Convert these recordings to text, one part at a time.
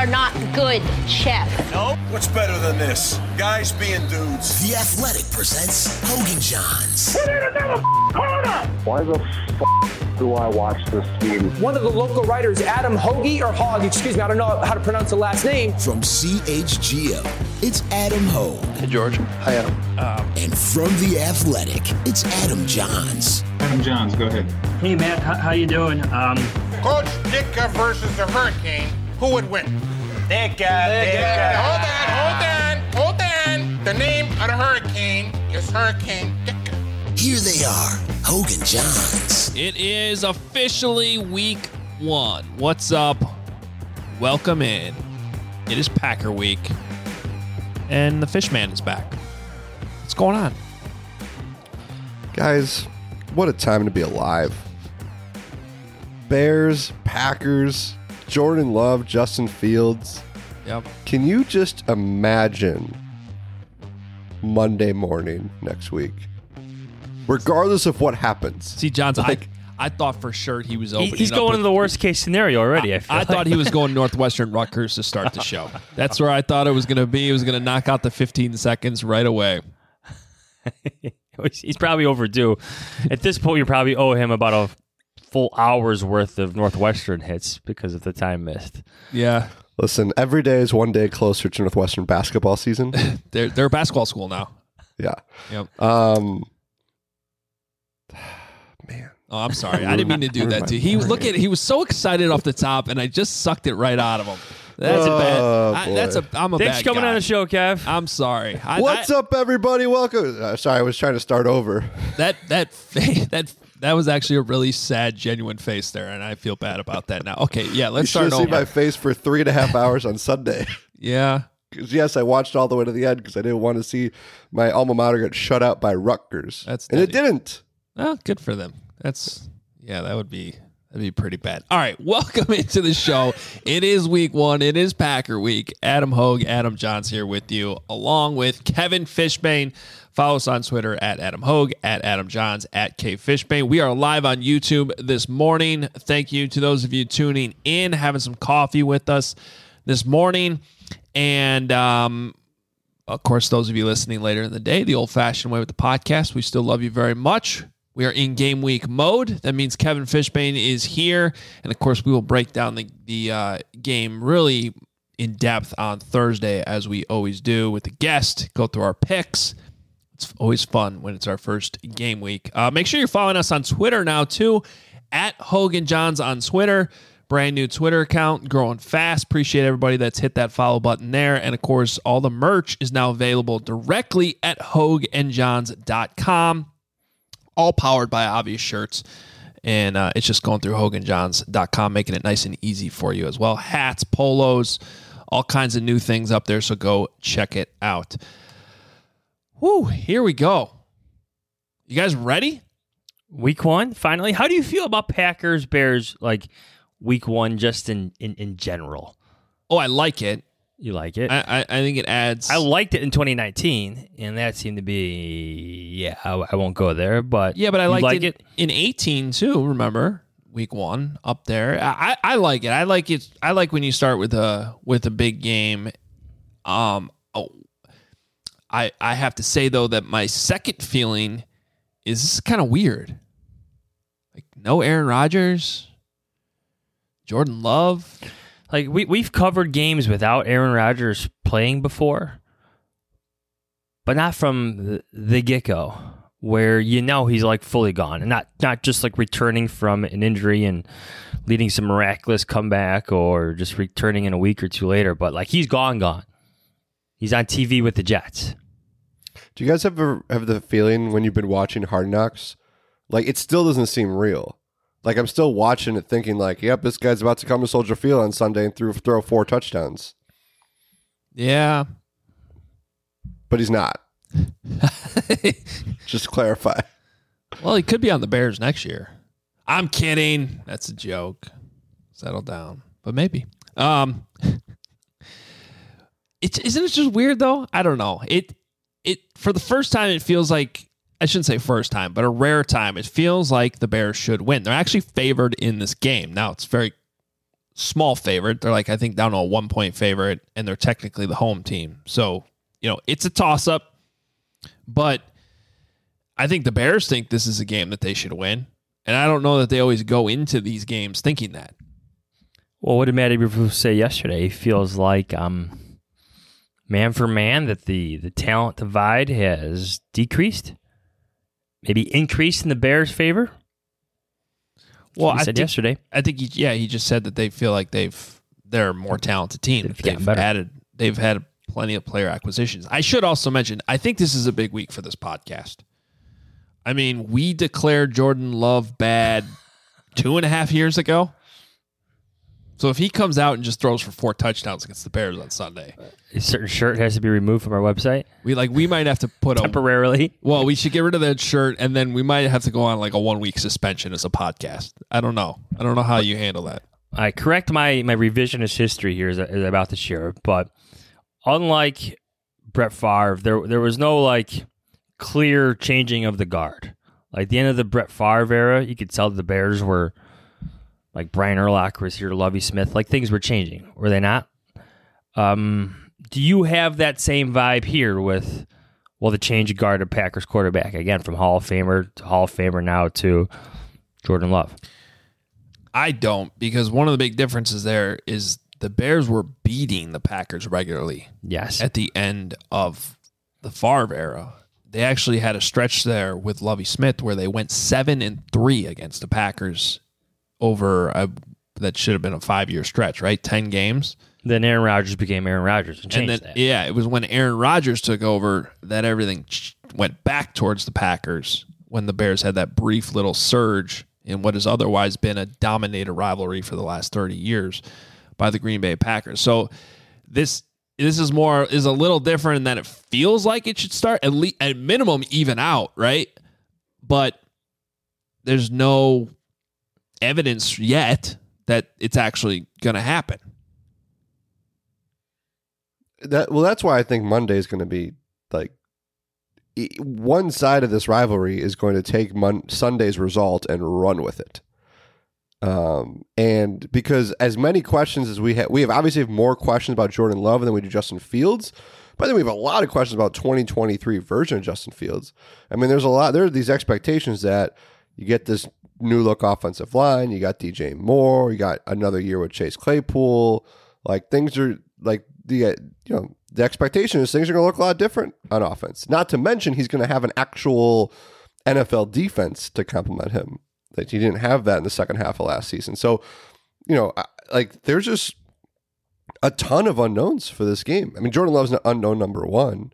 are not good, Chef. No? What's better than this? Guys being dudes. The Athletic presents Hogan Johns. We need another corner! Why the do I watch this game? One of the local writers, Adam Hoagie, or Hogg, excuse me, I don't know how to pronounce the last name. From CHGO, it's Adam Hogue. Hey, George. Hi, Adam. And from The Athletic, it's Adam Johns. Adam Johns, go ahead. Hey, Matt, how you doing? Coach Ditka versus the Hurricane, who would win? Ditka. Hold on. The name of the Hurricane is Hurricane Ditka. Here they are, Hogan Johns. It is officially week 1. What's up? Welcome in. It is Packer week, and the Fishman is back. What's going on? Guys, what a time to be alive. Bears, Packers, Jordan Love, Justin Fields. Yep. Can you just imagine Monday morning next week? Regardless of what happens. See, Johns, I thought for sure he was opening. He's going to the worst case scenario already. I thought he was going Northwestern Rutgers to start the show. That's where I thought it was going to be. He was going to knock out the 15 seconds right away. He's probably overdue. At this point, you probably owe him about a full hour's worth of Northwestern hits because of the time missed. Yeah. Listen, every day is one day closer to Northwestern basketball season. They're a basketball school now. Yeah. Yep. Man. Oh, I'm sorry. I didn't mean to do that to you. He was so excited off the top, and I just sucked it right out of him. That's I'm a Thanks bad for coming guy. on the show, Kev. I'm sorry. What's up, everybody? Welcome. Sorry, I was trying to start over. That was actually a really sad, genuine face there, and I feel bad about that now. Okay, yeah, let's start over. You should have seen my face for 3.5 hours on Sunday. Yeah. Because, yes, I watched all the way to the end because I didn't want to see my alma mater get shut out by Rutgers. And it didn't. Well, good for them. That'd be pretty bad. All right, welcome into the show. It is week 1. It is Packer week. Adam Hogue, Adam Johns here with you, along with Kevin Fishbane. Follow us on Twitter at Adam Hogue, at Adam Johns, at K Fishbane. We are live on YouTube this morning. Thank you to those of you tuning in, having some coffee with us this morning. And, of course, those of you listening later in the day, the old-fashioned way with the podcast, we still love you very much. We are in game week mode. That means Kevin Fishbane is here. And, of course, we will break down the game really in depth on Thursday, as we always do with the guest, go through our picks. It's always fun when it's our first game week. Make sure you're following us on Twitter now, too, at Hogan Johns on Twitter. Brand new Twitter account, growing fast. Appreciate everybody that's hit that follow button there. And, of course, all the merch is now available directly at hoganjohns.com. All powered by Obvious Shirts. And it's just going through hoganjohns.com, making it nice and easy for you as well. Hats, polos, all kinds of new things up there. So go check it out. Woo, here we go. You guys ready? Week 1, finally. How do you feel about Packers, Bears, like week 1 just in general? Oh, I like it. You like it? I think it adds. I liked it in 2019, and that seemed to be, I won't go there, but yeah, but I liked it in 18 too. Remember week 1 up there? I like it. I like it. I like when you start with a big game. I have to say though that my second feeling is this is kind of weird. Like no Aaron Rodgers, Jordan Love. Like we've covered games without Aaron Rodgers playing before, but not from the get-go, where he's like fully gone, and not just like returning from an injury and leading some miraculous comeback, or just returning in a week or two later, but like he's gone. He's on TV with the Jets. Do you guys ever have the feeling when you've been watching Hard Knocks, like it still doesn't seem real? Like, I'm still watching it thinking, like, yep, this guy's about to come to Soldier Field on Sunday and throw 4 touchdowns. Yeah. But he's not. Just to clarify. Well, he could be on the Bears next year. I'm kidding. That's a joke. Settle down. But maybe. Isn't it just weird, though? I don't know. It for the first time, it feels like, I shouldn't say first time, but a rare time, it feels like the Bears should win. They're actually favored in this game. Now, it's very small favorite. They're like, I think, down to a 1-point favorite, and they're technically the home team. So, it's a toss-up. But I think the Bears think this is a game that they should win. And I don't know that they always go into these games thinking that. Well, what did Matty Eberflus say yesterday? He feels like man for man that the talent divide has decreased, maybe increased in the Bears' favor. Well, I said yesterday. I think he just said that they feel like they're a more talented team. They've had plenty of player acquisitions. I should also mention, I think this is a big week for this podcast. I mean, we declared Jordan Love bad 2.5 years ago. So if he comes out and just throws for 4 touchdowns against the Bears on Sunday, a certain shirt has to be removed from our website. We might have to put temporarily. Well, we should get rid of that shirt, and then we might have to go on like a 1-week suspension as a podcast. I don't know how you handle that. I correct my revisionist history here is about this year, but unlike Brett Favre, there was no like clear changing of the guard. Like the end of the Brett Favre era, you could tell the Bears were like Brian Urlacher was here, Lovie Smith, like things were changing. Were they not? Do you have that same vibe here with, the change of guard of Packers quarterback, again, from Hall of Famer to Hall of Famer now to Jordan Love? I don't, because one of the big differences there is the Bears were beating the Packers regularly. Yes. At the end of the Favre era. They actually had a stretch there with Lovie Smith where they went 7-3 against the Packers over that should have been a 5-year stretch, right? 10 games. Then Aaron Rodgers became Aaron Rodgers and changed that. Yeah, it was when Aaron Rodgers took over that everything went back towards the Packers when the Bears had that brief little surge in what has otherwise been a dominated rivalry for the last 30 years by the Green Bay Packers. So this is a little different in that it feels like it should start at minimum even out, right? But there's no evidence yet that it's actually going to happen. That's why I think Monday is going to be like one side of this rivalry is going to take Sunday's result and run with it. And because as many questions as we have obviously have more questions about Jordan Love than we do Justin Fields, but then we have a lot of questions about 2023 version of Justin Fields. I mean, there are these expectations that you get this new look offensive line, you got DJ Moore, you got another year with Chase Claypool. Like things are like the expectation is things are going to look a lot different on offense. Not to mention he's going to have an actual NFL defense to complement him. That he didn't have that in the second half of last season. So, there's just a ton of unknowns for this game. I mean, Jordan Love's an unknown number one.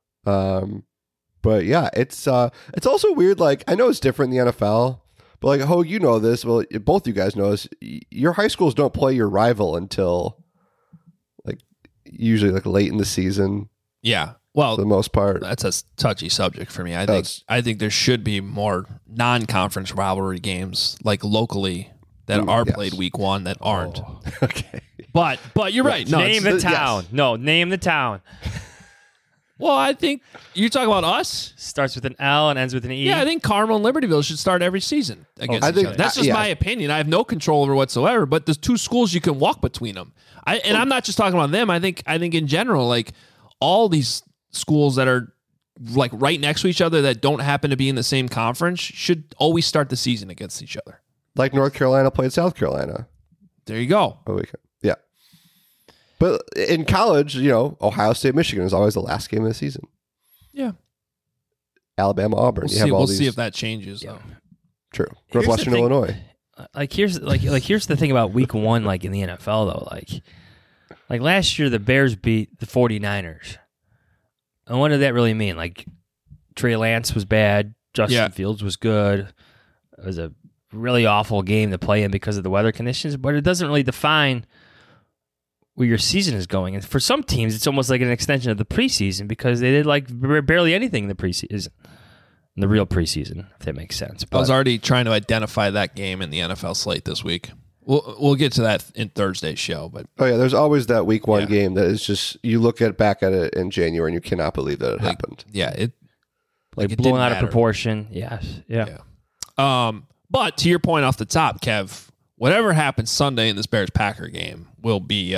But yeah, it's also weird. Like, I know it's different in the NFL, but like, Hogue, you know this. Well, both you guys know this. Your high schools don't play your rival until usually late in the season. Yeah. Well, for the most part, that's a touchy subject for me. I think there should be more non-conference rivalry games locally that are played week one that aren't. Okay. But you're right. No, name the town. Yes. No, name the town. Well, I think you're talking about us. Starts with an L and ends with an E. Yeah, I think Carmel and Libertyville should start every season against each other. That's just my opinion. I have no control over whatsoever. But there's two schools you can walk between them. I'm not just talking about them. I think in general, all these schools that are right next to each other that don't happen to be in the same conference should always start the season against each other. Like North Carolina played South Carolina. There you go. Yeah. But in college, Ohio State, Michigan is always the last game of the season. Yeah. Alabama, Auburn. We'll see if that changes. Yeah. True. Northwestern Illinois. Here's the thing about week one, in the NFL though, like last year the Bears beat the 49ers. And what did that really mean? Trey Lance was bad. Justin Fields was good. It was a really awful game to play in because of the weather conditions, but it doesn't really define where your season is going. And for some teams, it's almost like an extension of the preseason because they did barely anything in the preseason, in the real preseason, if that makes sense. But I was already trying to identify that game in the NFL slate this week. We'll get to that in Thursday's show, but there's always that week one game that is just you look back at it in January and you cannot believe that it happened. Yeah, it blown out of proportion. Yes, yeah. But to your point off the top, Kev, whatever happens Sunday in this Bears-Packer game will be,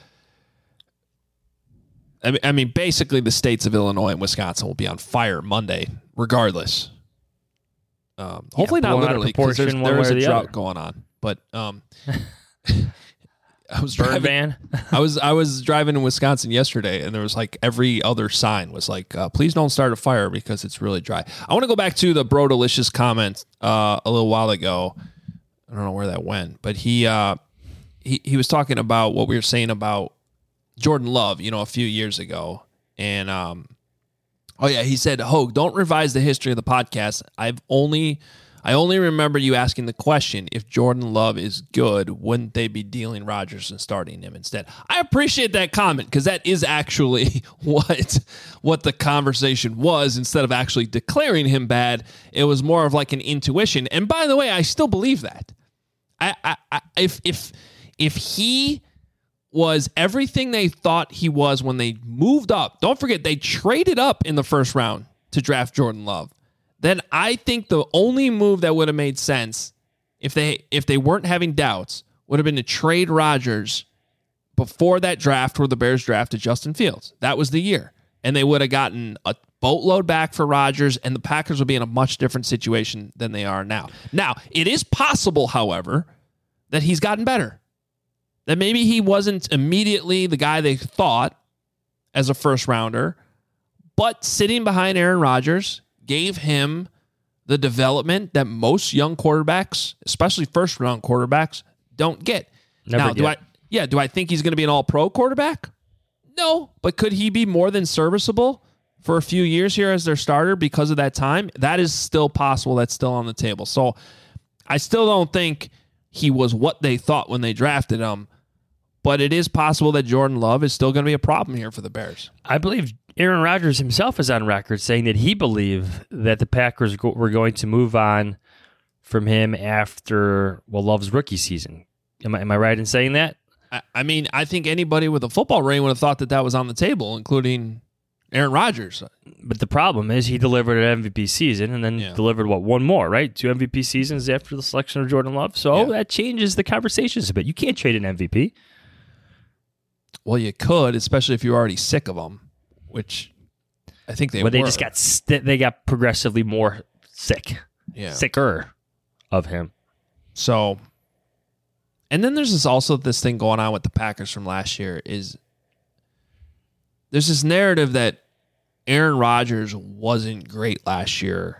I mean, basically the states of Illinois and Wisconsin will be on fire Monday, regardless. Hopefully not literally, because there is a drought going on. But I was driving. I was driving in Wisconsin yesterday, and there was like every other sign was like, "Please don't start a fire because it's really dry." I want to go back to the Bro Delicious comment a little while ago. I don't know where that went, but he was talking about what we were saying about Jordan Love, a few years ago, and he said, "Hogue, don't revise the history of the podcast. I only remember you asking the question, if Jordan Love is good, wouldn't they be dealing Rodgers and starting him instead?" I appreciate that comment, because that is actually what the conversation was. Instead of actually declaring him bad, it was more of like an intuition. And by the way, I still believe that. If he was everything they thought he was when they moved up, don't forget they traded up in the first round to draft Jordan Love, then I think the only move that would have made sense if they weren't having doubts would have been to trade Rodgers before that draft where the Bears drafted Justin Fields. That was the year. And they would have gotten a boatload back for Rodgers, and the Packers would be in a much different situation than they are now. Now, it is possible, however, that he's gotten better. That maybe he wasn't immediately the guy they thought as a first rounder, but sitting behind Aaron Rodgers gave him the development that most young quarterbacks, especially first-round quarterbacks, don't get. Never get. Do I think he's going to be an all-pro quarterback? No, but could he be more than serviceable for a few years here as their starter because of that time? That is still possible. That's still on the table. So I still don't think he was what they thought when they drafted him, but it is possible that Jordan Love is still going to be a problem here for the Bears. I believe Aaron Rodgers himself is on record saying that he believed that the Packers were going to move on from him after Love's rookie season. Am I right in saying that? I mean, I think anybody with a football brain would have thought that was on the table, including Aaron Rodgers. But the problem is he delivered an MVP season and then delivered, one more, right? 2 MVP seasons after the selection of Jordan Love. So that changes the conversations a bit. You can't trade an MVP. Well, you could, especially if you're already sick of them, which I think they were. They just got progressively more sicker of him. So, and then there's also this thing going on with the Packers from last year is there's this narrative that Aaron Rodgers wasn't great last year.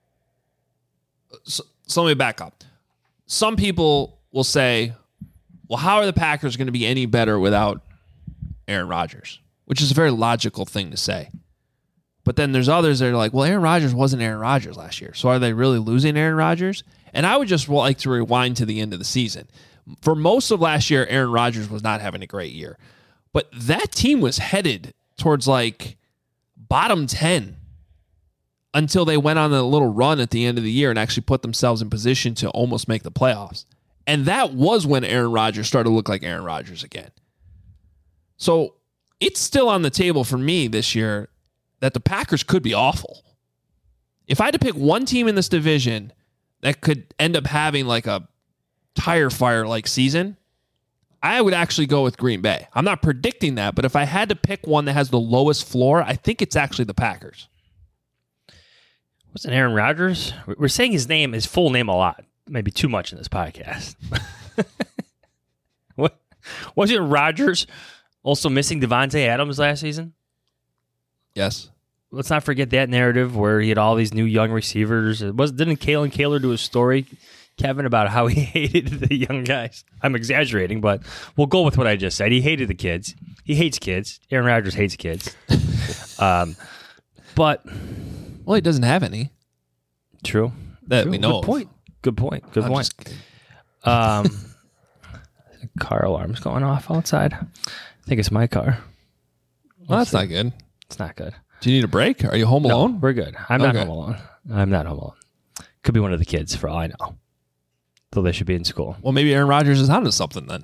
So let me back up. Some people will say, well, how are the Packers going to be any better without Aaron Rodgers? Which is a very logical thing to say. But then there's others that are like, well, Aaron Rodgers wasn't Aaron Rodgers last year. So are they really losing Aaron Rodgers? And I would just like to rewind to the end of the season. For most of last year, Aaron Rodgers was not having a great year. But that team was headed towards bottom 10 until they went on a little run at the end of the year and actually put themselves in position to almost make the playoffs. And that was when Aaron Rodgers started to look like Aaron Rodgers again. So it's still on the table for me this year that the Packers could be awful. If I had to pick one team in this division that could end up having a tire fire season, I would actually go with Green Bay. I'm not predicting that, but if I had to pick one that has the lowest floor, I think it's actually the Packers. Wasn't Aaron Rodgers? We're saying his full name a lot. Maybe too much in this podcast. Wasn't Rodgers also missing Devontae Adams last season? Yes. Let's not forget that narrative where he had all these new young receivers. Didn't Kalen Kaler do a story, Kevin, about how he hated the young guys? I'm exaggerating, but we'll go with what I just said. He hated the kids. He hates kids. Aaron Rodgers hates kids. But he doesn't have any. True. That we know. Good point. Car alarm's going off outside. I think it's my car. Well, that's not good. It's not good. Do you need a break? Are you home alone? No, we're good. I'm not home alone. Could be one of the kids for all I know. Though they should be in school. Well, maybe Aaron Rodgers is onto something then.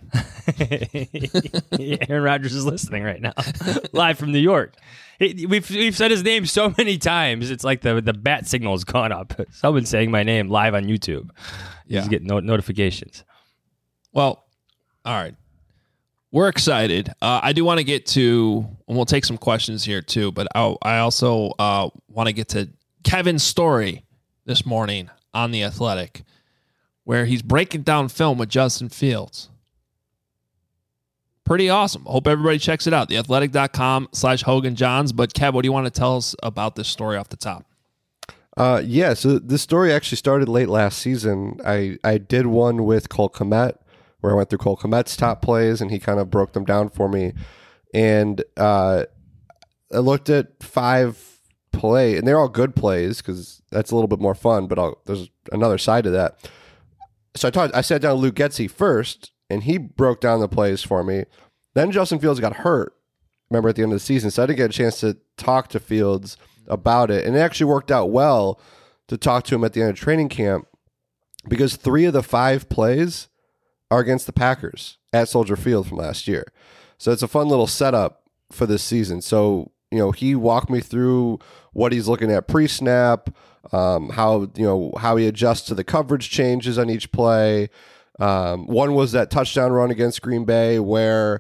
Aaron Rodgers is listening right now. Live from New York. We've said his name so many times. It's like the bat signal has gone up. Someone's saying my name live on YouTube. Yeah. He's getting notifications. Well, all right. We're excited. I do want to get to, and we'll take some questions here too, but I also want to get to Kevin's story this morning on The Athletic, where he's breaking down film with Justin Fields. Pretty awesome. Hope everybody checks it out. theathletic.com/Hogan Johns. But Kev, what do you want to tell us about this story off the top? Yeah, so this story actually started late last season. I did one with Cole Kmet, where I went through Cole Kmet's top plays, and he kind of broke them down for me. And I looked at 5 play, and they're all good plays because that's a little bit more fun, but there's another side to that. So I sat down with Luke Getsy first, and he broke down the plays for me. Then Justin Fields got hurt, remember, at the end of the season, so I didn't get a chance to talk to Fields about it. And it actually worked out well to talk to him at the end of training camp because 3 of the 5 plays are against the Packers at Soldier Field from last year. So it's a fun little setup for this season. So, he walked me through what he's looking at pre-snap, how he adjusts to the coverage changes on each play. One was that touchdown run against Green Bay where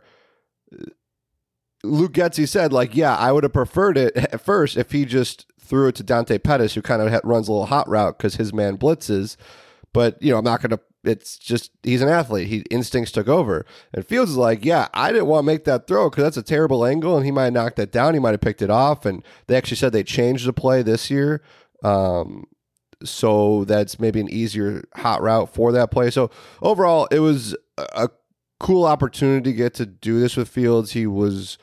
Luke Getsy said, I would have preferred it at first if he just threw it to Dante Pettis, who kind of runs a little hot route because his man blitzes. But, I'm not going to, it's just, he's an athlete. Instincts took over. And Fields is I didn't want to make that throw because that's a terrible angle, and he might have knocked that down. He might have picked it off. And they actually said they changed the play this year. So that's maybe an easier hot route for that play. So overall, it was a cool opportunity to get to do this with Fields. He was,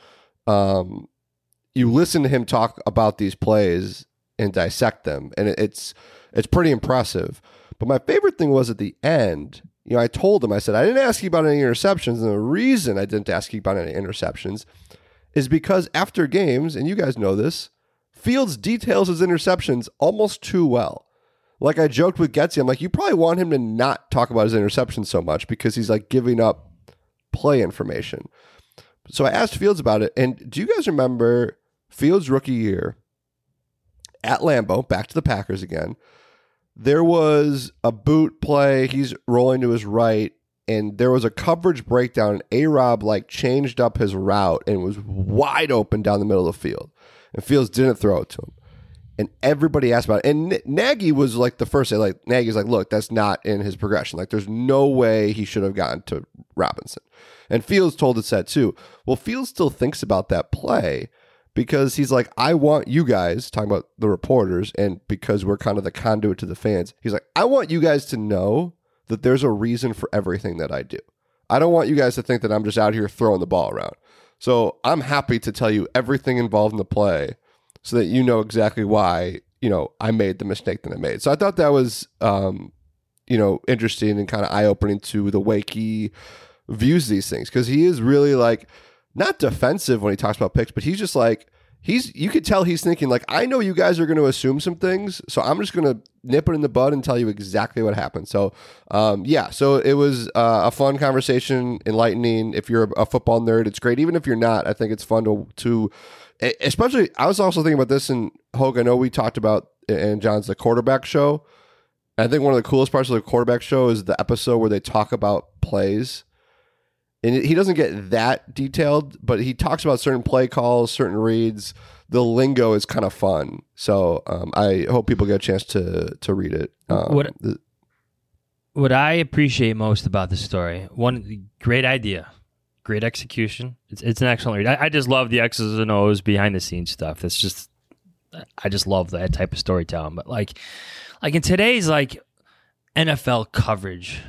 you listen to him talk about these plays and dissect them, and it's pretty impressive. But my favorite thing was at the end, I told him, I said, I didn't ask you about any interceptions. And the reason I didn't ask you about any interceptions is because after games, and you guys know this, Fields details his interceptions almost too well. Like I joked with Getsy, I'm you probably want him to not talk about his interceptions so much because he's giving up play information. So I asked Fields about it. And do you guys remember Fields' rookie year at Lambeau, back to the Packers again? There was a boot play. He's rolling to his right, and there was a coverage breakdown. And A-Rob changed up his route and was wide open down the middle of the field. And Fields didn't throw it to him. And everybody asked about it. And Nagy was the first day. Nagy's look, that's not in his progression. There's no way he should have gotten to Robinson. And Fields told us that too. Well, Fields still thinks about that play because he's I want you guys, talking about the reporters, and because we're kind of the conduit to the fans, he's I want you guys to know that there's a reason for everything that I do. I don't want you guys to think that I'm just out here throwing the ball around. So I'm happy to tell you everything involved in the play so that you know exactly why, I made the mistake that I made. So I thought that was, interesting and kind of eye-opening to the way he views these things. Because he is really not defensive when he talks about picks, but he's just you could tell he's thinking I know you guys are going to assume some things, so I'm just going to nip it in the bud and tell you exactly what happened. So, so it was a fun conversation, enlightening. If you're a football nerd, it's great. Even if you're not, I think it's fun to especially, I was also thinking about this, and Hogue, I know we talked about, and John's, the quarterback show. I think one of the coolest parts of the quarterback show is the episode where they talk about plays. And he doesn't get that detailed, but he talks about certain play calls, certain reads. The lingo is kind of fun. So I hope people get a chance to read it. What I appreciate most about this story, one, great idea, great execution. It's an excellent read. I just love the X's and O's behind the scenes stuff. It's just, I just love that type of storytelling. But in today's NFL coverage,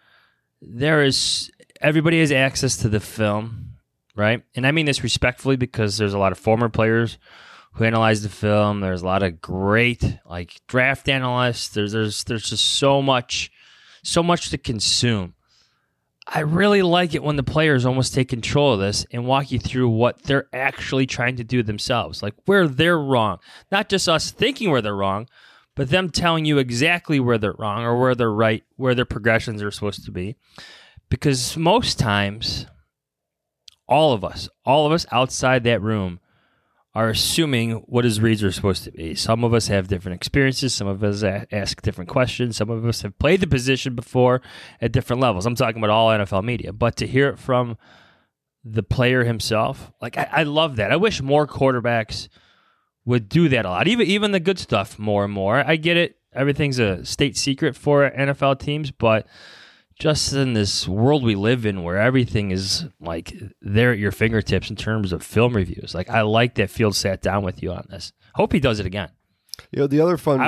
everybody has access to the film, right? And I mean this respectfully because there's a lot of former players who analyze the film. There's a lot of great draft analysts. There's just so much to consume. I really like it when the players almost take control of this and walk you through what they're actually trying to do themselves, where they're wrong. Not just us thinking where they're wrong, but them telling you exactly where they're wrong or where they're right, where their progressions are supposed to be. Because most times, all of us outside that room are assuming what his reads are supposed to be. Some of us have different experiences. Some of us ask different questions. Some of us have played the position before at different levels. I'm talking about all NFL media. But to hear it from the player himself, like I love that. I wish more quarterbacks would do that a lot. Even the good stuff more and more. I get it. Everything's a state secret for NFL teams, but just in this world we live in where everything is like there at your fingertips in terms of film reviews. Like I like that Fields sat down with you on this. Hope he does it again. The other fun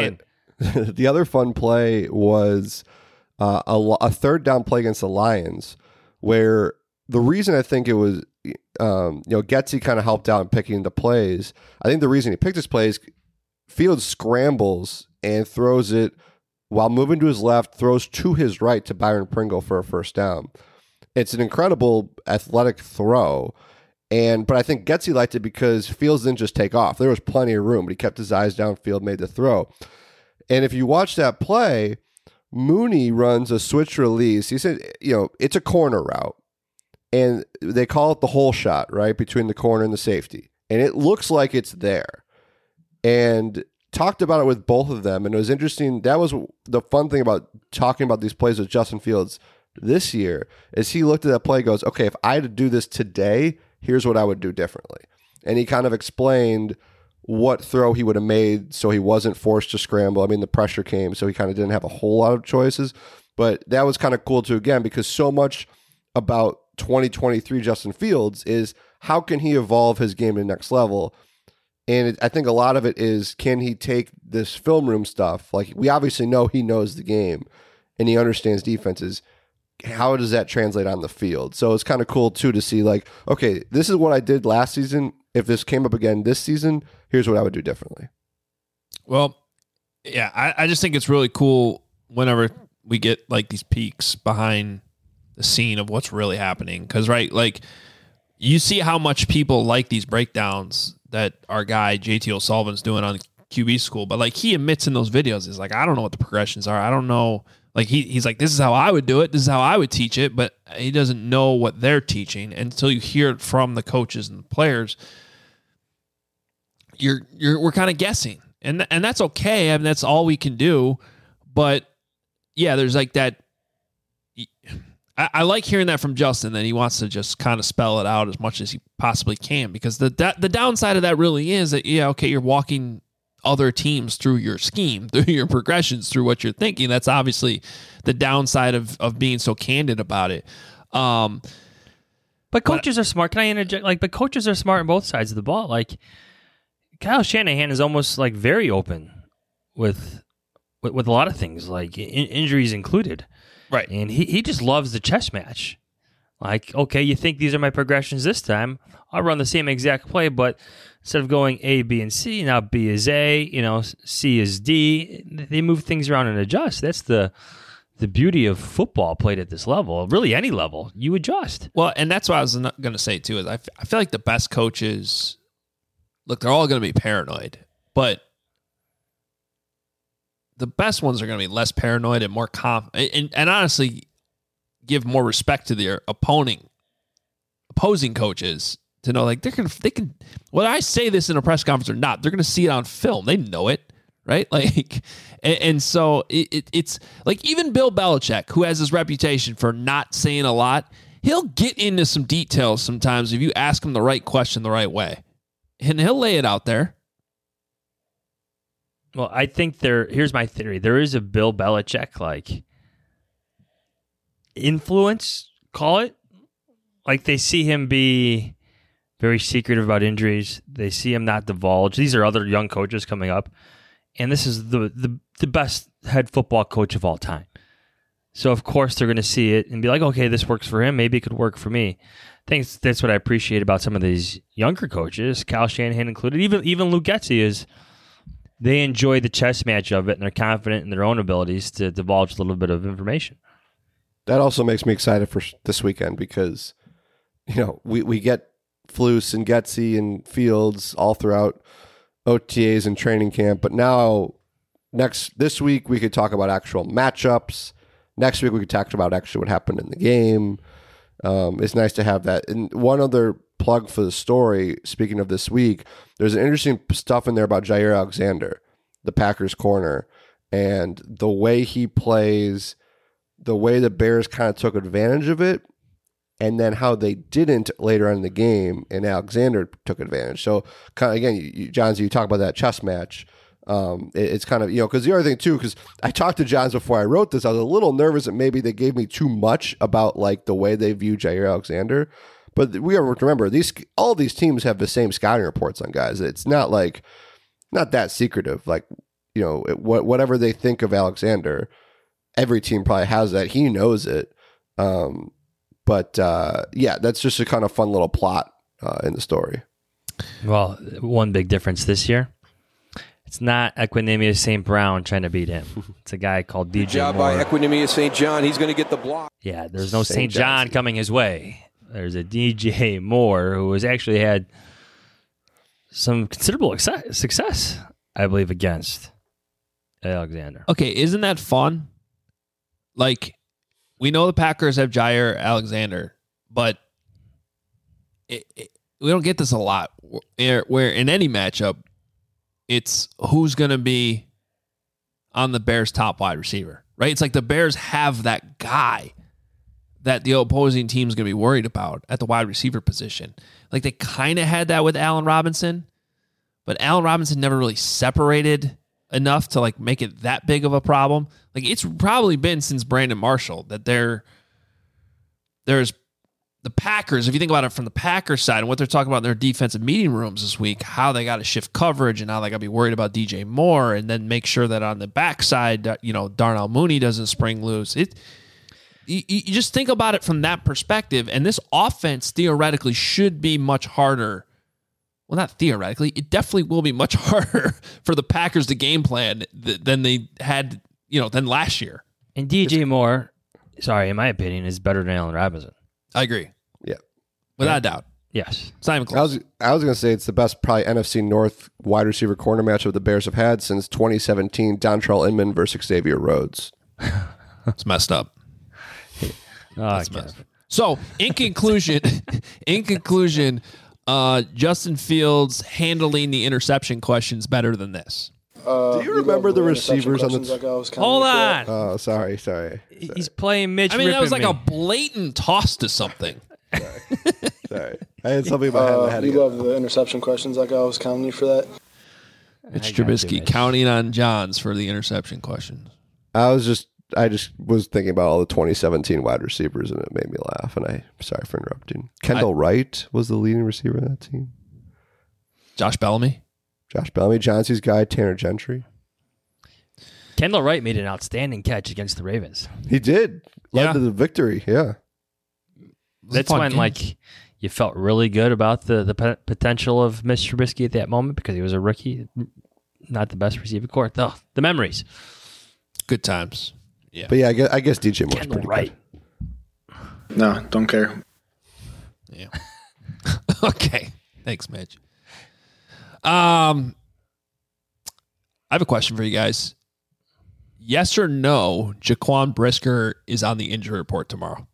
the other fun play was a third down play against the Lions, where the reason I think it was Getsy kind of helped out in picking the plays. I think the reason he picked this play is Fields scrambles and throws it while moving to his left, throws to his right to Byron Pringle for a first down. It's an incredible athletic throw, but I think Getsy liked it because Fields didn't just take off. There was plenty of room, but he kept his eyes downfield, made the throw. And if you watch that play, Mooney runs a switch release. He said, it's a corner route, and they call it the hole shot, right, between the corner and the safety. And it looks like it's there. And talked about it with both of them, and it was interesting. That was the fun thing about talking about these plays with Justin Fields this year, is he looked at that play and goes, okay, if I had to do this today, here's what I would do differently. And he kind of explained what throw he would have made so he wasn't forced to scramble. I mean, the pressure came, so he kind of didn't have a whole lot of choices. But that was kind of cool too, again, because so much about 2023 Justin Fields is how can he evolve his game to the next level. And I think a lot of it is, can he take this film room stuff? Like, we obviously know he knows the game and he understands defenses. How does that translate on the field? So it's kind of cool, too, to see, like, okay, this is what I did last season. If this came up again this season, here's what I would do differently. Well, yeah, I just think it's really cool whenever we get, like, these peeks behind the scene of what's really happening. Because, right, like, you see how much people like these breakdowns that our guy JT O'Sullivan's doing on QB School, but like he admits in those videos, is like, I don't know what the progressions are. I don't know. Like he's like, this is how I would do it. This is how I would teach it, but he doesn't know what they're teaching until you hear it from the coaches and the players. We're kind of guessing, and that's okay. I mean, that's all we can do. But yeah, there's like that. I like hearing that from Justin, that he wants to just kind of spell it out as much as he possibly can, because the downside of that really is that, yeah, okay, you're walking other teams through your scheme, through your progressions, through what you're thinking. That's obviously the downside of being so candid about it. But coaches are smart. Can I interject? But coaches are smart on both sides of the ball. Like, Kyle Shanahan is almost like very open with a lot of things, like injuries included. Right. And he just loves the chess match. Like, okay, you think these are my progressions this time? I'll run the same exact play, but instead of going A, B, and C, now B is A, C is D. They move things around and adjust. That's the beauty of football played at this level. Really, any level, you adjust. Well, and that's what I was going to say, too, is I feel like the best coaches, look, they're all going to be paranoid, but the best ones are going to be less paranoid and more confident, and honestly give more respect to their opposing coaches, to know, like, they can, whether I say this in a press conference or not, they're going to see it on film. They know it, right? Like, and so it's like, even Bill Belichick, who has this reputation for not saying a lot, he'll get into some details sometimes if you ask him the right question the right way, and he'll lay it out there. Well, I think here's my theory. There is a Bill Belichick, like, influence, call it. Like, they see him be very secretive about injuries. They see him not divulge. These are other young coaches coming up. And this is the best head football coach of all time. So, of course, they're going to see it and be like, okay, this works for him. Maybe it could work for me. I think that's what I appreciate about some of these younger coaches, Kyle Shanahan included. Even Luke Getsy is... They enjoy the chess match of it, and they're confident in their own abilities to divulge a little bit of information. That also makes me excited for this weekend because, we get Flus and Getsy and Fields all throughout OTAs and training camp. But now, this week, we could talk about actual matchups. Next week, we could talk about actually what happened in the game. It's nice to have that. And one other plug for the story, speaking of this week, there's an interesting stuff in there about Jair Alexander, the Packers corner, and the way he plays, the way the Bears kind of took advantage of it, and then how they didn't later on in the game, and Alexander took advantage. So, kind of, again, Johns, you talk about that chess match. It's kind of, because the other thing too, because I talked to Johns before I wrote this, I was a little nervous that maybe they gave me too much about like the way they view Jair Alexander. But we have to remember, all these teams have the same scouting reports on guys. It's not that secretive. Like, whatever they think of Alexander, every team probably has that. He knows it. But that's just a kind of fun little plot in the story. Well, one big difference this year. It's not Equanimeous St. Brown trying to beat him. It's a guy called DJ job Moore. by Equanimeous St. John. He's going to get the block. Yeah, there's no St. John coming his way. There's a DJ Moore who has actually had some considerable success, I believe, against Alexander. Okay, isn't that fun? Like, we know the Packers have Jair Alexander, but we don't get this a lot. Where in any matchup, it's who's going to be on the Bears' top wide receiver, right? It's like the Bears have that guy that the opposing team's going to be worried about at the wide receiver position. Like they kind of had that with Allen Robinson, but Allen Robinson never really separated enough to like make it that big of a problem. Like it's probably been since Brandon Marshall that there's the Packers, if you think about it from the Packers side and what they're talking about in their defensive meeting rooms this week, how they got to shift coverage and how they got to be worried about DJ Moore and then make sure that on the backside, Darnell Mooney doesn't spring loose. You just think about it from that perspective, and this offense theoretically should be much harder. Well, not theoretically. It definitely will be much harder for the Packers to game plan than they had, than last year. And DJ Moore, in my opinion, is better than Allen Robinson. I agree. Yeah. Without a doubt. Yes. It's not even close. I was going to say it's the best probably NFC North wide receiver corner matchup the Bears have had since 2017 Dontrell Inman versus Xavier Rhodes. It's messed up. Messed up. So, in conclusion, Justin Fields handling the interception questions better than this. Do you remember the receivers on the? Hold on. Oh, sorry. He's playing Mitch. That was like a blatant toss to something. Sorry. I had something in my head. I had to you love the interception questions like I was counting you for that. Mitch Trubisky counting on Johns for the interception questions. I just was thinking about all the 2017 wide receivers, and it made me laugh. And sorry for interrupting. Kendall Wright was the leading receiver in that team. Josh Bellamy, Johnson's guy, Tanner Gentry. Kendall Wright made an outstanding catch against the Ravens. He did. Led to the victory. Yeah. That's when you felt really good about the potential of Mitch Trubisky at that moment because he was a rookie, not the best receiver core. The memories. Good times. Yeah. But yeah, I guess DJ Moore's Kendall pretty Wright. good. No, don't care. Yeah. Okay. Thanks, Mitch. I have a question for you guys. Yes or no, Jaquan Brisker is on the injury report tomorrow?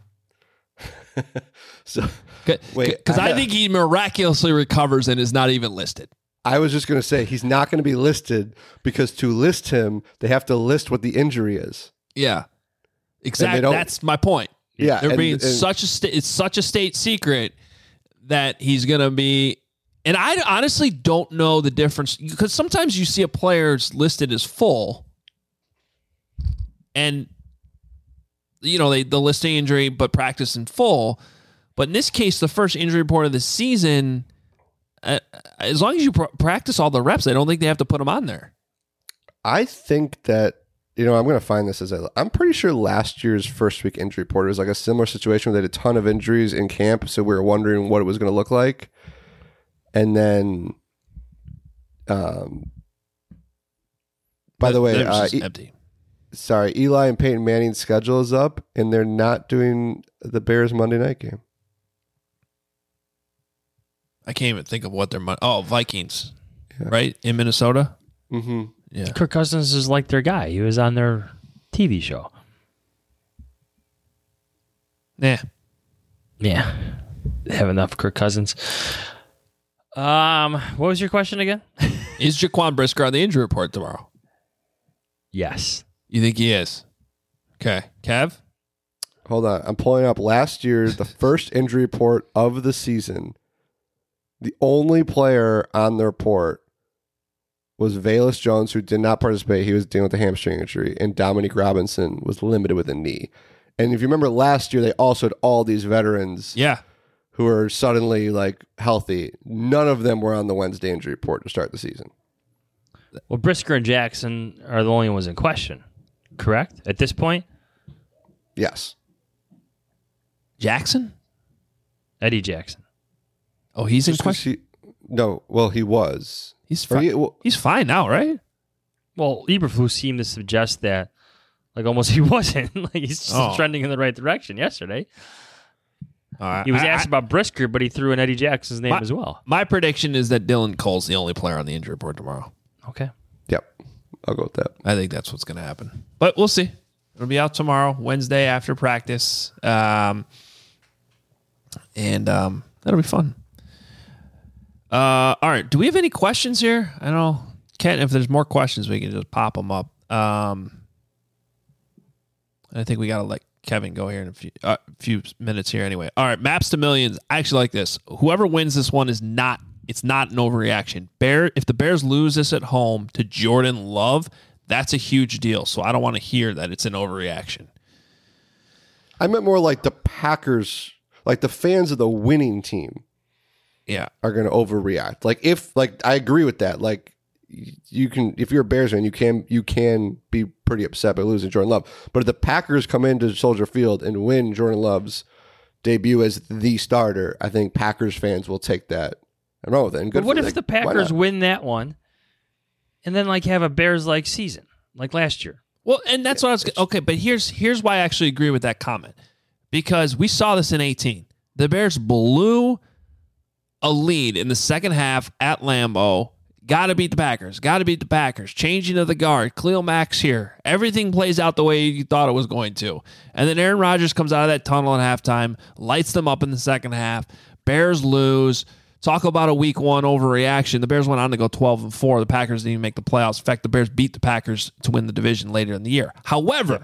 So wait, because I think he miraculously recovers and is not even listed. I was just going to say he's not going to be listed because to list him, they have to list what the injury is. Yeah, exactly. That's my point. Yeah, they're being such it's such a state secret that he's going to be. And I honestly don't know the difference because sometimes you see a player's listed as full, and they list the injury but practice in full. But in this case, the first injury report of the season, as long as you practice all the reps, I don't think they have to put them on there. I think that, I'm going to find this I'm pretty sure last year's first week injury report was like a similar situation where they had a ton of injuries in camp. So we were wondering what it was going to look like. And then, by the way, empty. Sorry, Eli and Peyton Manning's schedule is up and they're not doing the Bears Monday night game. I can't even think of what they're... Vikings, right? In Minnesota? Mm-hmm. Yeah. Kirk Cousins is like their guy. He was on their TV show. Yeah. Yeah. have enough Kirk Cousins. What was your question again? Is Jaquan Brisker on the injury report tomorrow? Yes. You think he is? Okay. Kev? Hold on. I'm pulling up last year's, the first injury report of the season. The only player on the report was Velus Jones, who did not participate. He was dealing with a hamstring injury. And Dominique Robinson was limited with a knee. And if you remember last year, they also had all these veterans who were suddenly like healthy. None of them were on the Wednesday injury report to start the season. Well, Brisker and Jackson are the only ones in question, correct? At this point? Yes. Jackson? Eddie Jackson. Oh, he's in question? He was. He's fine. He's fine now, right? Well, Eberflus seemed to suggest that, like, almost he wasn't. Like, he's just trending in the right direction yesterday. He was asked about Brisker, but he threw in Eddie Jackson's name as well. My prediction is that Dylan Cole's the only player on the injury report tomorrow. Okay. Yep. I'll go with that. I think that's what's going to happen. But we'll see. It'll be out tomorrow, Wednesday after practice. And that'll be fun. All right. Do we have any questions here? I don't know. Kent, if there's more questions, we can just pop them up. I think we got to let Kevin go here in a few minutes here anyway. All right. Maps to Millions. I actually like this. Whoever wins this one it's not an overreaction. If the Bears lose this at home to Jordan Love, that's a huge deal. So I don't want to hear that it's an overreaction. I meant more like the Packers, like the fans of the winning team. Yeah, are going to overreact. I agree with that. Like, you can, if you're a Bears fan, you can be pretty upset by losing Jordan Love. But if the Packers come into Soldier Field and win Jordan Love's debut as the starter, I think Packers fans will take that and run with it. And good. But what if the Packers win that one, and then like have a Bears-like season like last year? Well, and that's what I was okay. But here's why I actually agree with that comment, because we saw this in 2018. The Bears blew a lead in the second half at Lambeau. Got to beat the Packers. Changing of the guard. Khalil Mack's here. Everything plays out the way you thought it was going to. And then Aaron Rodgers comes out of that tunnel at halftime, lights them up in the second half. Bears lose. Talk about a week one overreaction. The Bears went on to go 12-4. The Packers didn't even make the playoffs. In fact, the Bears beat the Packers to win the division later in the year. However,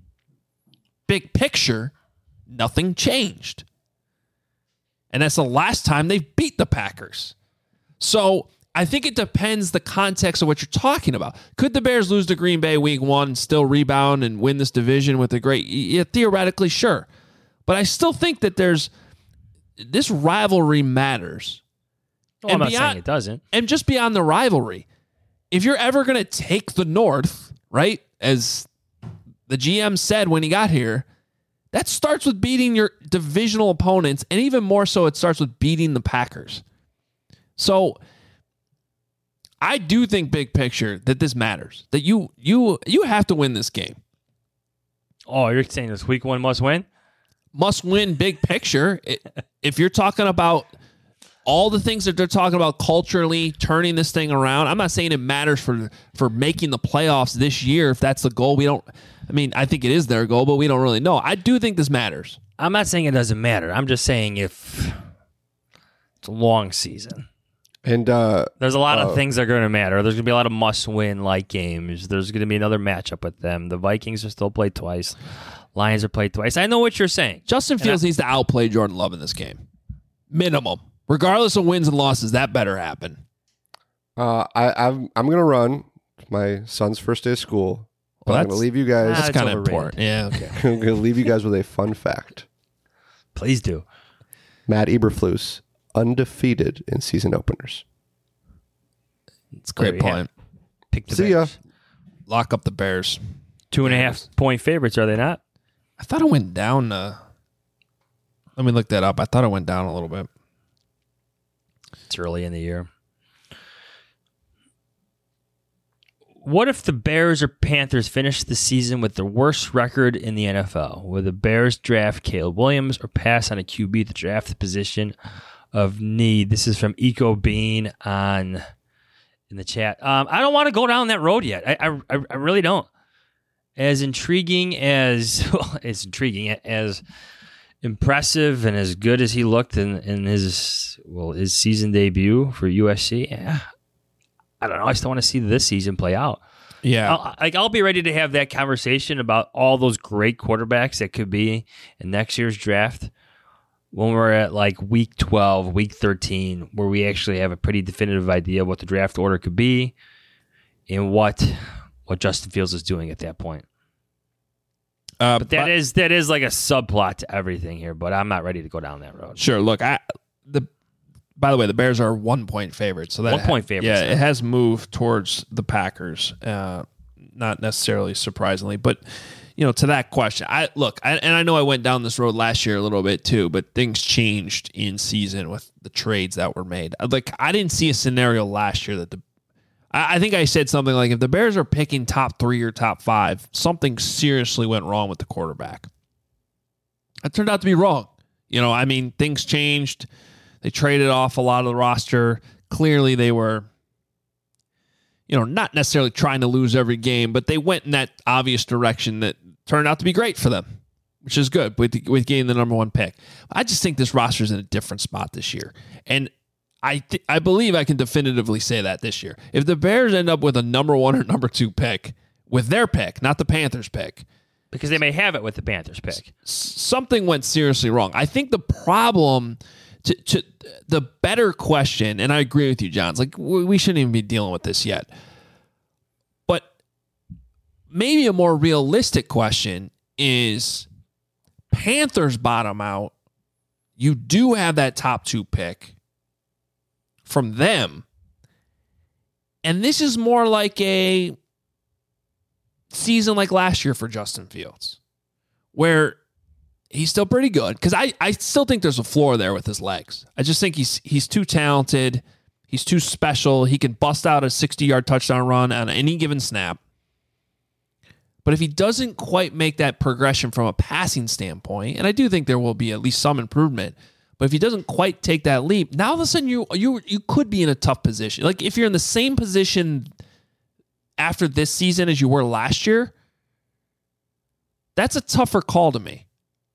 big picture, nothing changed. And that's the last time they've beat the Packers. So I think it depends the context of what you're talking about. Could the Bears lose to Green Bay week one, still rebound and win this division with a great... Yeah, theoretically, sure. But I still think that this rivalry matters. Well, I'm not saying it doesn't. And just beyond the rivalry, if you're ever going to take the North, right, as the GM said when he got here, that starts with beating your divisional opponents, and even more so, it starts with beating the Packers. So I do think big picture that this matters, that you have to win this game. Oh, you're saying this week one must win? Must win big picture. If you're talking about all the things that they're talking about culturally, turning this thing around, I'm not saying it matters for making the playoffs this year. If that's the goal, I think it is their goal, but we don't really know. I do think this matters. I'm not saying it doesn't matter. I'm just saying if it's a long season. And there's a lot of things that are going to matter. There's going to be a lot of must-win like games. There's going to be another matchup with them. The Vikings are still played twice. Lions are played twice. I know what you're saying. Justin Fields needs to outplay Jordan Love in this game. Minimum. Regardless of wins and losses, that better happen. I'm going to run my son's first day of school. Well, I'm going to leave you guys. That's kind of important. Yeah, okay. I'm going to leave you guys with a fun fact. Please do. Matt Eberflus, undefeated in season openers. It's a great point. Pick the See Bears. ya. Lock up the Bears. 2.5 point favorites, are they not? I thought it went down. Let me look that up. I thought it went down a little bit. It's early in the year. What if the Bears or Panthers finish the season with the worst record in the NFL? Will the Bears draft Caleb Williams or pass on a QB to draft the position of need? This is from Eco Bean in the chat. I don't want to go down that road yet. I really don't. As intriguing as impressive and as good as he looked in his season debut for USC, I don't know. I still want to see this season play out. Yeah. I'll be ready to have that conversation about all those great quarterbacks that could be in next year's draft when we're at like week 12, week 13, where we actually have a pretty definitive idea of what the draft order could be and what Justin Fields is doing at that point. But that is like a subplot to everything here, but I'm not ready to go down that road. Sure. Look, by the way, the Bears are 1-point favorites. So that 1 point favorites. Yeah, it has moved towards the Packers. Not necessarily surprisingly, but to that question, I know I went down this road last year a little bit too, but things changed in season with the trades that were made. Like I didn't see a scenario last year that I think I said something like if the Bears are picking top 3 or top 5, something seriously went wrong with the quarterback. That turned out to be wrong. Things changed. They traded off a lot of the roster. Clearly, they were, not necessarily trying to lose every game, but they went in that obvious direction that turned out to be great for them, which is good with getting the number 1 pick. I just think this roster is in a different spot this year. And I believe I can definitively say that this year. If the Bears end up with a number 1 or number 2 pick, with their pick, not the Panthers pick, because they may have it with the Panthers pick, something went seriously wrong. I think the problem... To the better question, and I agree with you, John, it's like we shouldn't even be dealing with this yet. But maybe a more realistic question is Panthers bottom out. You do have that top 2 pick from them. And this is more like a season like last year for Justin Fields, where he's still pretty good because I still think there's a floor there with his legs. I just think he's too talented. He's too special. He can bust out a 60-yard touchdown run on any given snap. But if he doesn't quite make that progression from a passing standpoint, and I do think there will be at least some improvement, but if he doesn't quite take that leap, now all of a sudden you could be in a tough position. Like if you're in the same position after this season as you were last year, that's a tougher call to me.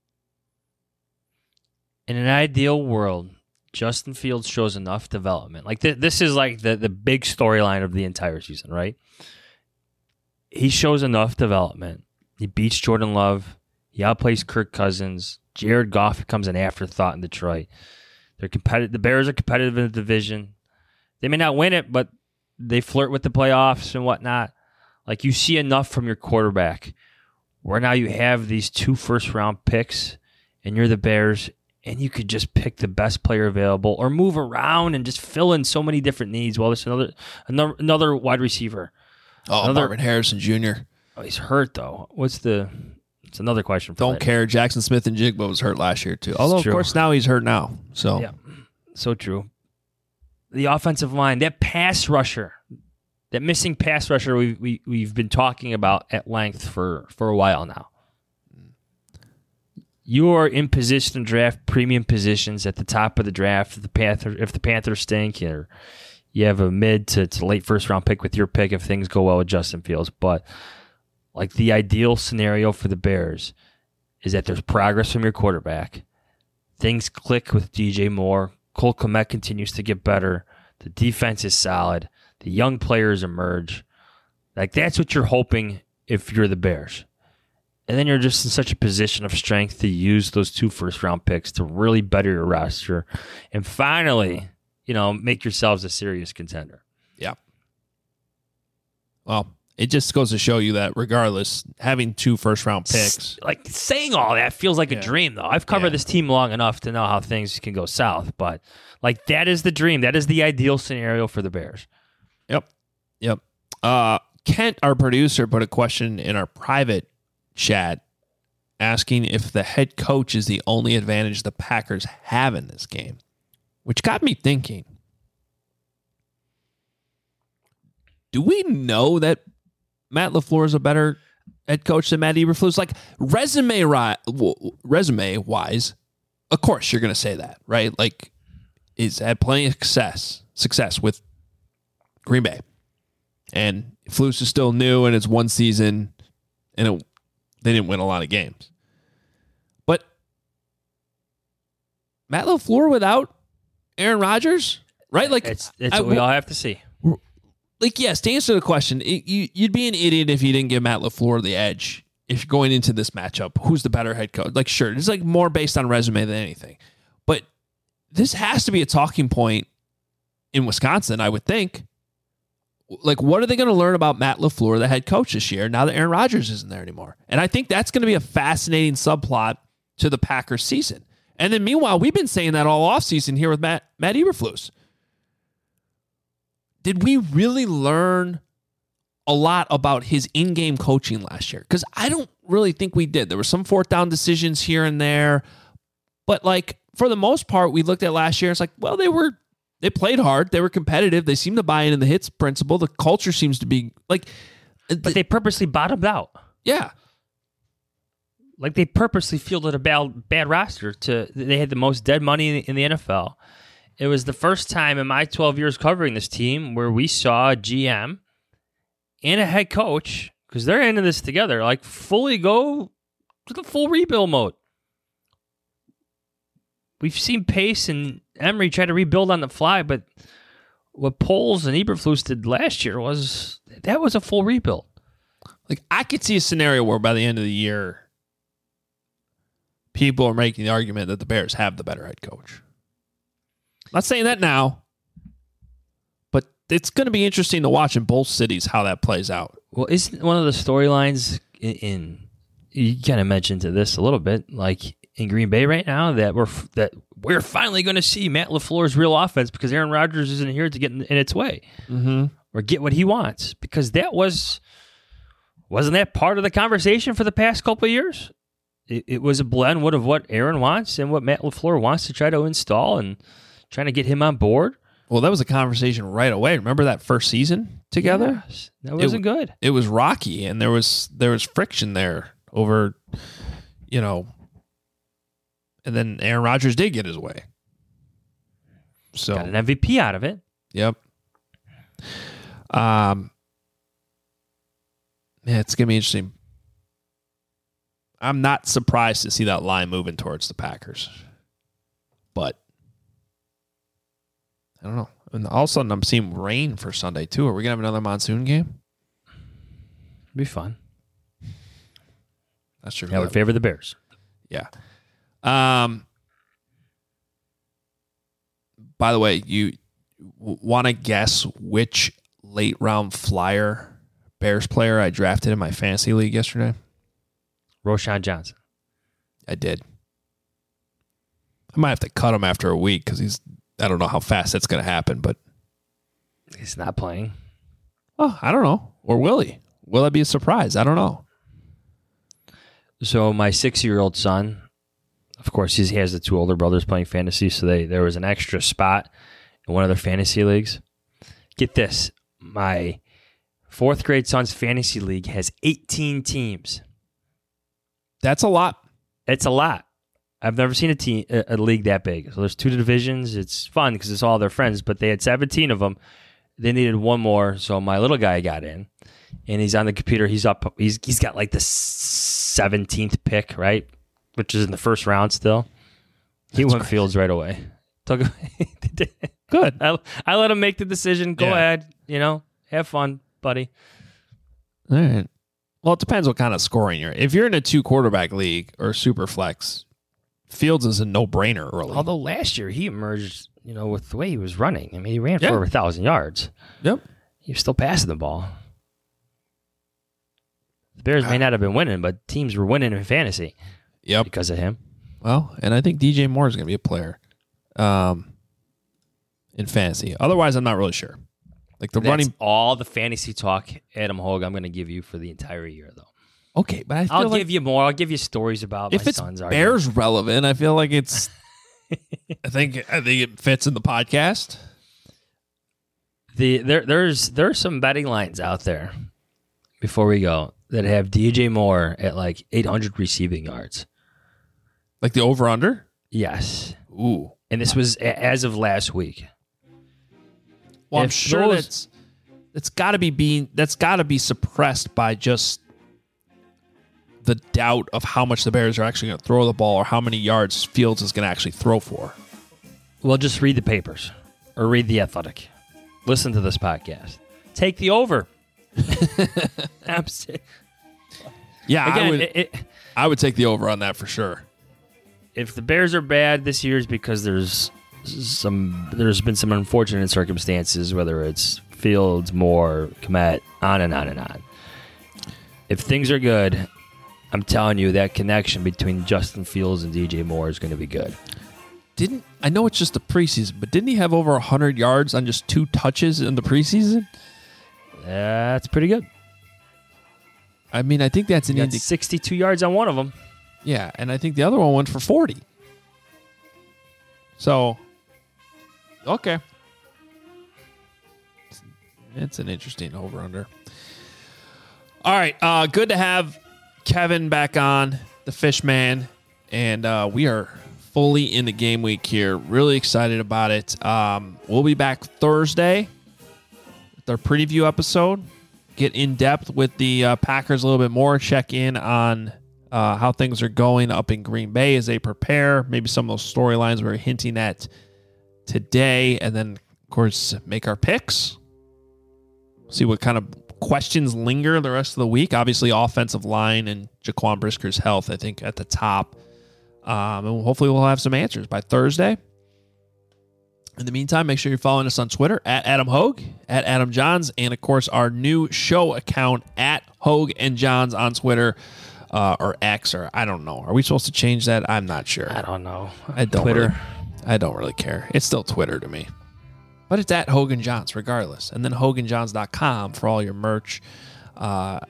In an ideal world, Justin Fields shows enough development. Like this is like the big storyline of the entire season, right? He shows enough development. He beats Jordan Love. He outplays Kirk Cousins. Jared Goff becomes an afterthought in Detroit. They're competitive. The Bears are competitive in the division. They may not win it, but they flirt with the playoffs and whatnot. Like you see enough from your quarterback where now you have these 2 first-round picks and you're the Bears, and you could just pick the best player available or move around and just fill in so many different needs. Well, there's another wide receiver. Marvin Harrison Jr. Oh, he's hurt, though. It's another question. Don't care. Jackson Smith and Jigba was hurt last year, too. Although, of course, now he's hurt now. So, yeah, so true. The offensive line, that pass rusher, that missing pass rusher we've been talking about at length for a while now. You are in position to draft premium positions at the top of the draft. If the Panthers stink, or you have a mid to late first round pick with your pick if things go well with Justin Fields. But like the ideal scenario for the Bears is that there's progress from your quarterback. Things click with DJ Moore. Cole Kmet continues to get better. The defense is solid. The young players emerge. Like that's what you're hoping if you're the Bears. And then you're just in such a position of strength to use those 2 first-round picks to really better your roster and finally, make yourselves a serious contender. Yeah. Well, it just goes to show you that regardless, having 2 first-round picks. Like saying all that feels like a dream, though. I've covered this team long enough to know how things can go south, but like that is the dream. That is the ideal scenario for the Bears. Yep. Kent, our producer, put a question in our private chat asking if the head coach is the only advantage the Packers have in this game, which got me thinking. Do we know that Matt LaFleur is a better head coach than Matt Eberflus? Like resume-wise, of course you're going to say that, right? Like he's had plenty of success with Green Bay. And Flus is still new and it's one season and they didn't win a lot of games. But Matt LaFleur without Aaron Rodgers, right? Like It's what we all have to see. Like, yes, to answer the question, you'd be an idiot if you didn't give Matt LaFleur the edge. If you're going into this matchup, who's the better head coach? Like, sure, it's like more based on resume than anything. But this has to be a talking point in Wisconsin, I would think. Like, what are they going to learn about Matt LaFleur, the head coach this year, now that Aaron Rodgers isn't there anymore? And I think that's going to be a fascinating subplot to the Packers season. And then meanwhile, we've been saying that all offseason here with Matt Eberflus. Did we really learn a lot about his in-game coaching last year? Because I don't really think we did. There were some fourth down decisions here and there. But, like, for the most part, we looked at last year. It's like, well, they played hard. They were competitive. They seemed to buy into the hits principle. The culture seems to be, like... But they purposely bottomed out. Yeah. Like, they purposely fielded a bad roster. They had the most dead money in the NFL. It was the first time in my 12 years covering this team where we saw a GM and a head coach, because they're into this together, like fully go to the full rebuild mode. We've seen Pace and Emery try to rebuild on the fly, but what Poles and Eberflus did last year was a full rebuild. Like, I could see a scenario where by the end of the year, people are making the argument that the Bears have the better head coach. Not saying that now, but it's going to be interesting to watch in both cities how that plays out. Well, isn't one of the storylines in you kind of mentioned to this a little bit, like in Green Bay right now, that we're finally going to see Matt LaFleur's real offense because Aaron Rodgers isn't here to get in its way or get what he wants, because that wasn't that part of the conversation for the past couple of years? It was a blend of what Aaron wants and what Matt LaFleur wants to try to install and trying to get him on board. Well, that was a conversation right away. Remember that first season together? Yes, that wasn't good. It was rocky, and there was friction there over, and then Aaron Rodgers did get his way. So got an MVP out of it. Yep. Yeah, it's gonna be interesting. I'm not surprised to see that line moving towards the Packers, but I don't know. And all of a sudden, I'm seeing rain for Sunday, too. Are we going to have another monsoon game? Be fun. That's true. That would favor the Bears. Yeah. By the way, you want to guess which late-round flyer Bears player I drafted in my fantasy league yesterday? Roschon Johnson. I did. I might have to cut him after a week because I don't know how fast that's going to happen, but he's not playing. Oh, I don't know. Or will he? Will that be a surprise? I don't know. So my 6-year-old son, of course, he has the two older brothers playing fantasy, so there was an extra spot in one of their fantasy leagues. Get this. My 4th grade son's fantasy league has 18 teams. That's a lot. It's a lot. I've never seen a league that big. So there's 2 divisions. It's fun because it's all their friends, but they had 17 of them. They needed one more, so my little guy got in, and he's on the computer. He's up. He's got like the 17th pick, right, which is in the first round still. He went crazy. Fields right away. Good. I let him make the decision. Go ahead. Have fun, buddy. All right. Well, it depends what kind of scoring you're. If you're in a 2-quarterback league or super flex, Fields is a no-brainer early. Although last year he emerged, with the way he was running. I mean, he ran for over 1,000 yards. Yep. He was still passing the ball. The Bears may not have been winning, but teams were winning in fantasy. Yep. Because of him. Well, and I think DJ Moore is going to be a player in fantasy. Otherwise, I'm not really sure. Like That's all the fantasy talk, Adam Hogue, I'm going to give you for the entire year, though. Okay, but I'll give you more. I'll give you stories about if my it's son's Bears relevant. I feel like it's. I think it fits in the podcast. There's some betting lines out there. Before we go, that have DJ Moore at like 800 receiving yards, like the over under. Yes. Ooh, and this was as of last week. Well, I'm sure that's got to be suppressed by just the doubt of how much the Bears are actually going to throw the ball or how many yards Fields is going to actually throw for. Well, just read the papers or read The Athletic. Listen to this podcast. Take the over. Yeah, Again, I would take the over on that for sure. If the Bears are bad this year, it's because there's been some unfortunate circumstances, whether it's Fields, Moore, Kmet, on and on and on. If things are good, I'm telling you that connection between Justin Fields and DJ Moore is going to be good. I know it's just the preseason, but didn't he have over 100 yards on just 2 touches in the preseason? That's pretty good. I mean, I think that's an He got 62 yards on one of them. Yeah, and I think the other one went for 40. So, okay. It's an interesting over-under. All right, good to have Kevin back on, the Fish Man, and we are fully in the game week here. Really excited about it. We'll be back Thursday with our preview episode. Get in depth with the Packers a little bit more. Check in on how things are going up in Green Bay as they prepare. Maybe some of those storylines we were hinting at today. And then, of course, make our picks. See what kind of questions linger the rest of the week. Obviously, offensive line and Jaquan Brisker's health, I think, at the top. And hopefully we'll have some answers by Thursday. In the meantime, make sure you're following us on Twitter at Adam Hogue, at Adam Johns, and of course our new show account at Hogue and Johns on Twitter or X, or I don't know. Are we supposed to change that? I'm not sure. I don't know. I don't really care. It's still Twitter to me. But it's at Hogue and Johns regardless. And then HogueandJohns.com for all your merch. It's a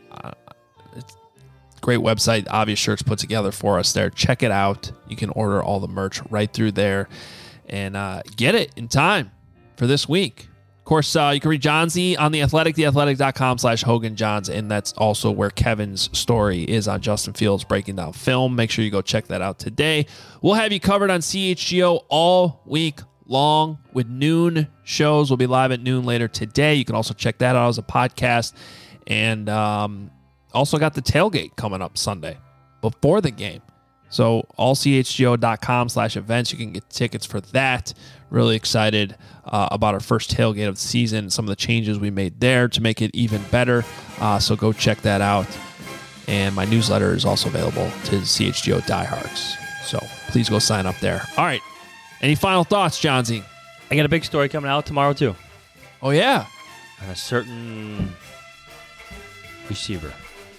great website. Obvious Shirts put together for us there. Check it out. You can order all the merch right through there. And get it in time for this week. Of course, you can read Johnsy on The Athletic, theathletic.com/HoganJohns, and that's also where Kevin's story is on Justin Fields breaking down film. Make sure you go check that out today. We'll have you covered on CHGO all week long with noon shows. We'll be live at noon later today. You can also check that out as a podcast. And also got the tailgate coming up Sunday before the game. So allchgo.com/events. You can get tickets for that. Really excited about our first tailgate of the season. Some of the changes we made there to make it even better. So go check that out. And my newsletter is also available to CHGO diehards. So please go sign up there. All right. Any final thoughts, Johnsy? I got a big story coming out tomorrow, too. Oh, yeah. On a certain receiver.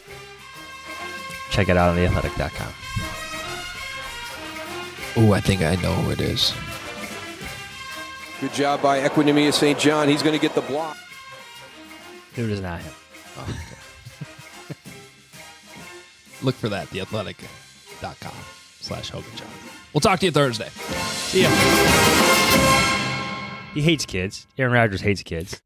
Check it out on theathletic.com. Oh, I think I know who it is. Good job by Equinemius St. John. He's going to get the block. It is not him. Oh, okay. Look for that, theathletic.com/HoganJohn. We'll talk to you Thursday. See ya. He hates kids. Aaron Rodgers hates kids.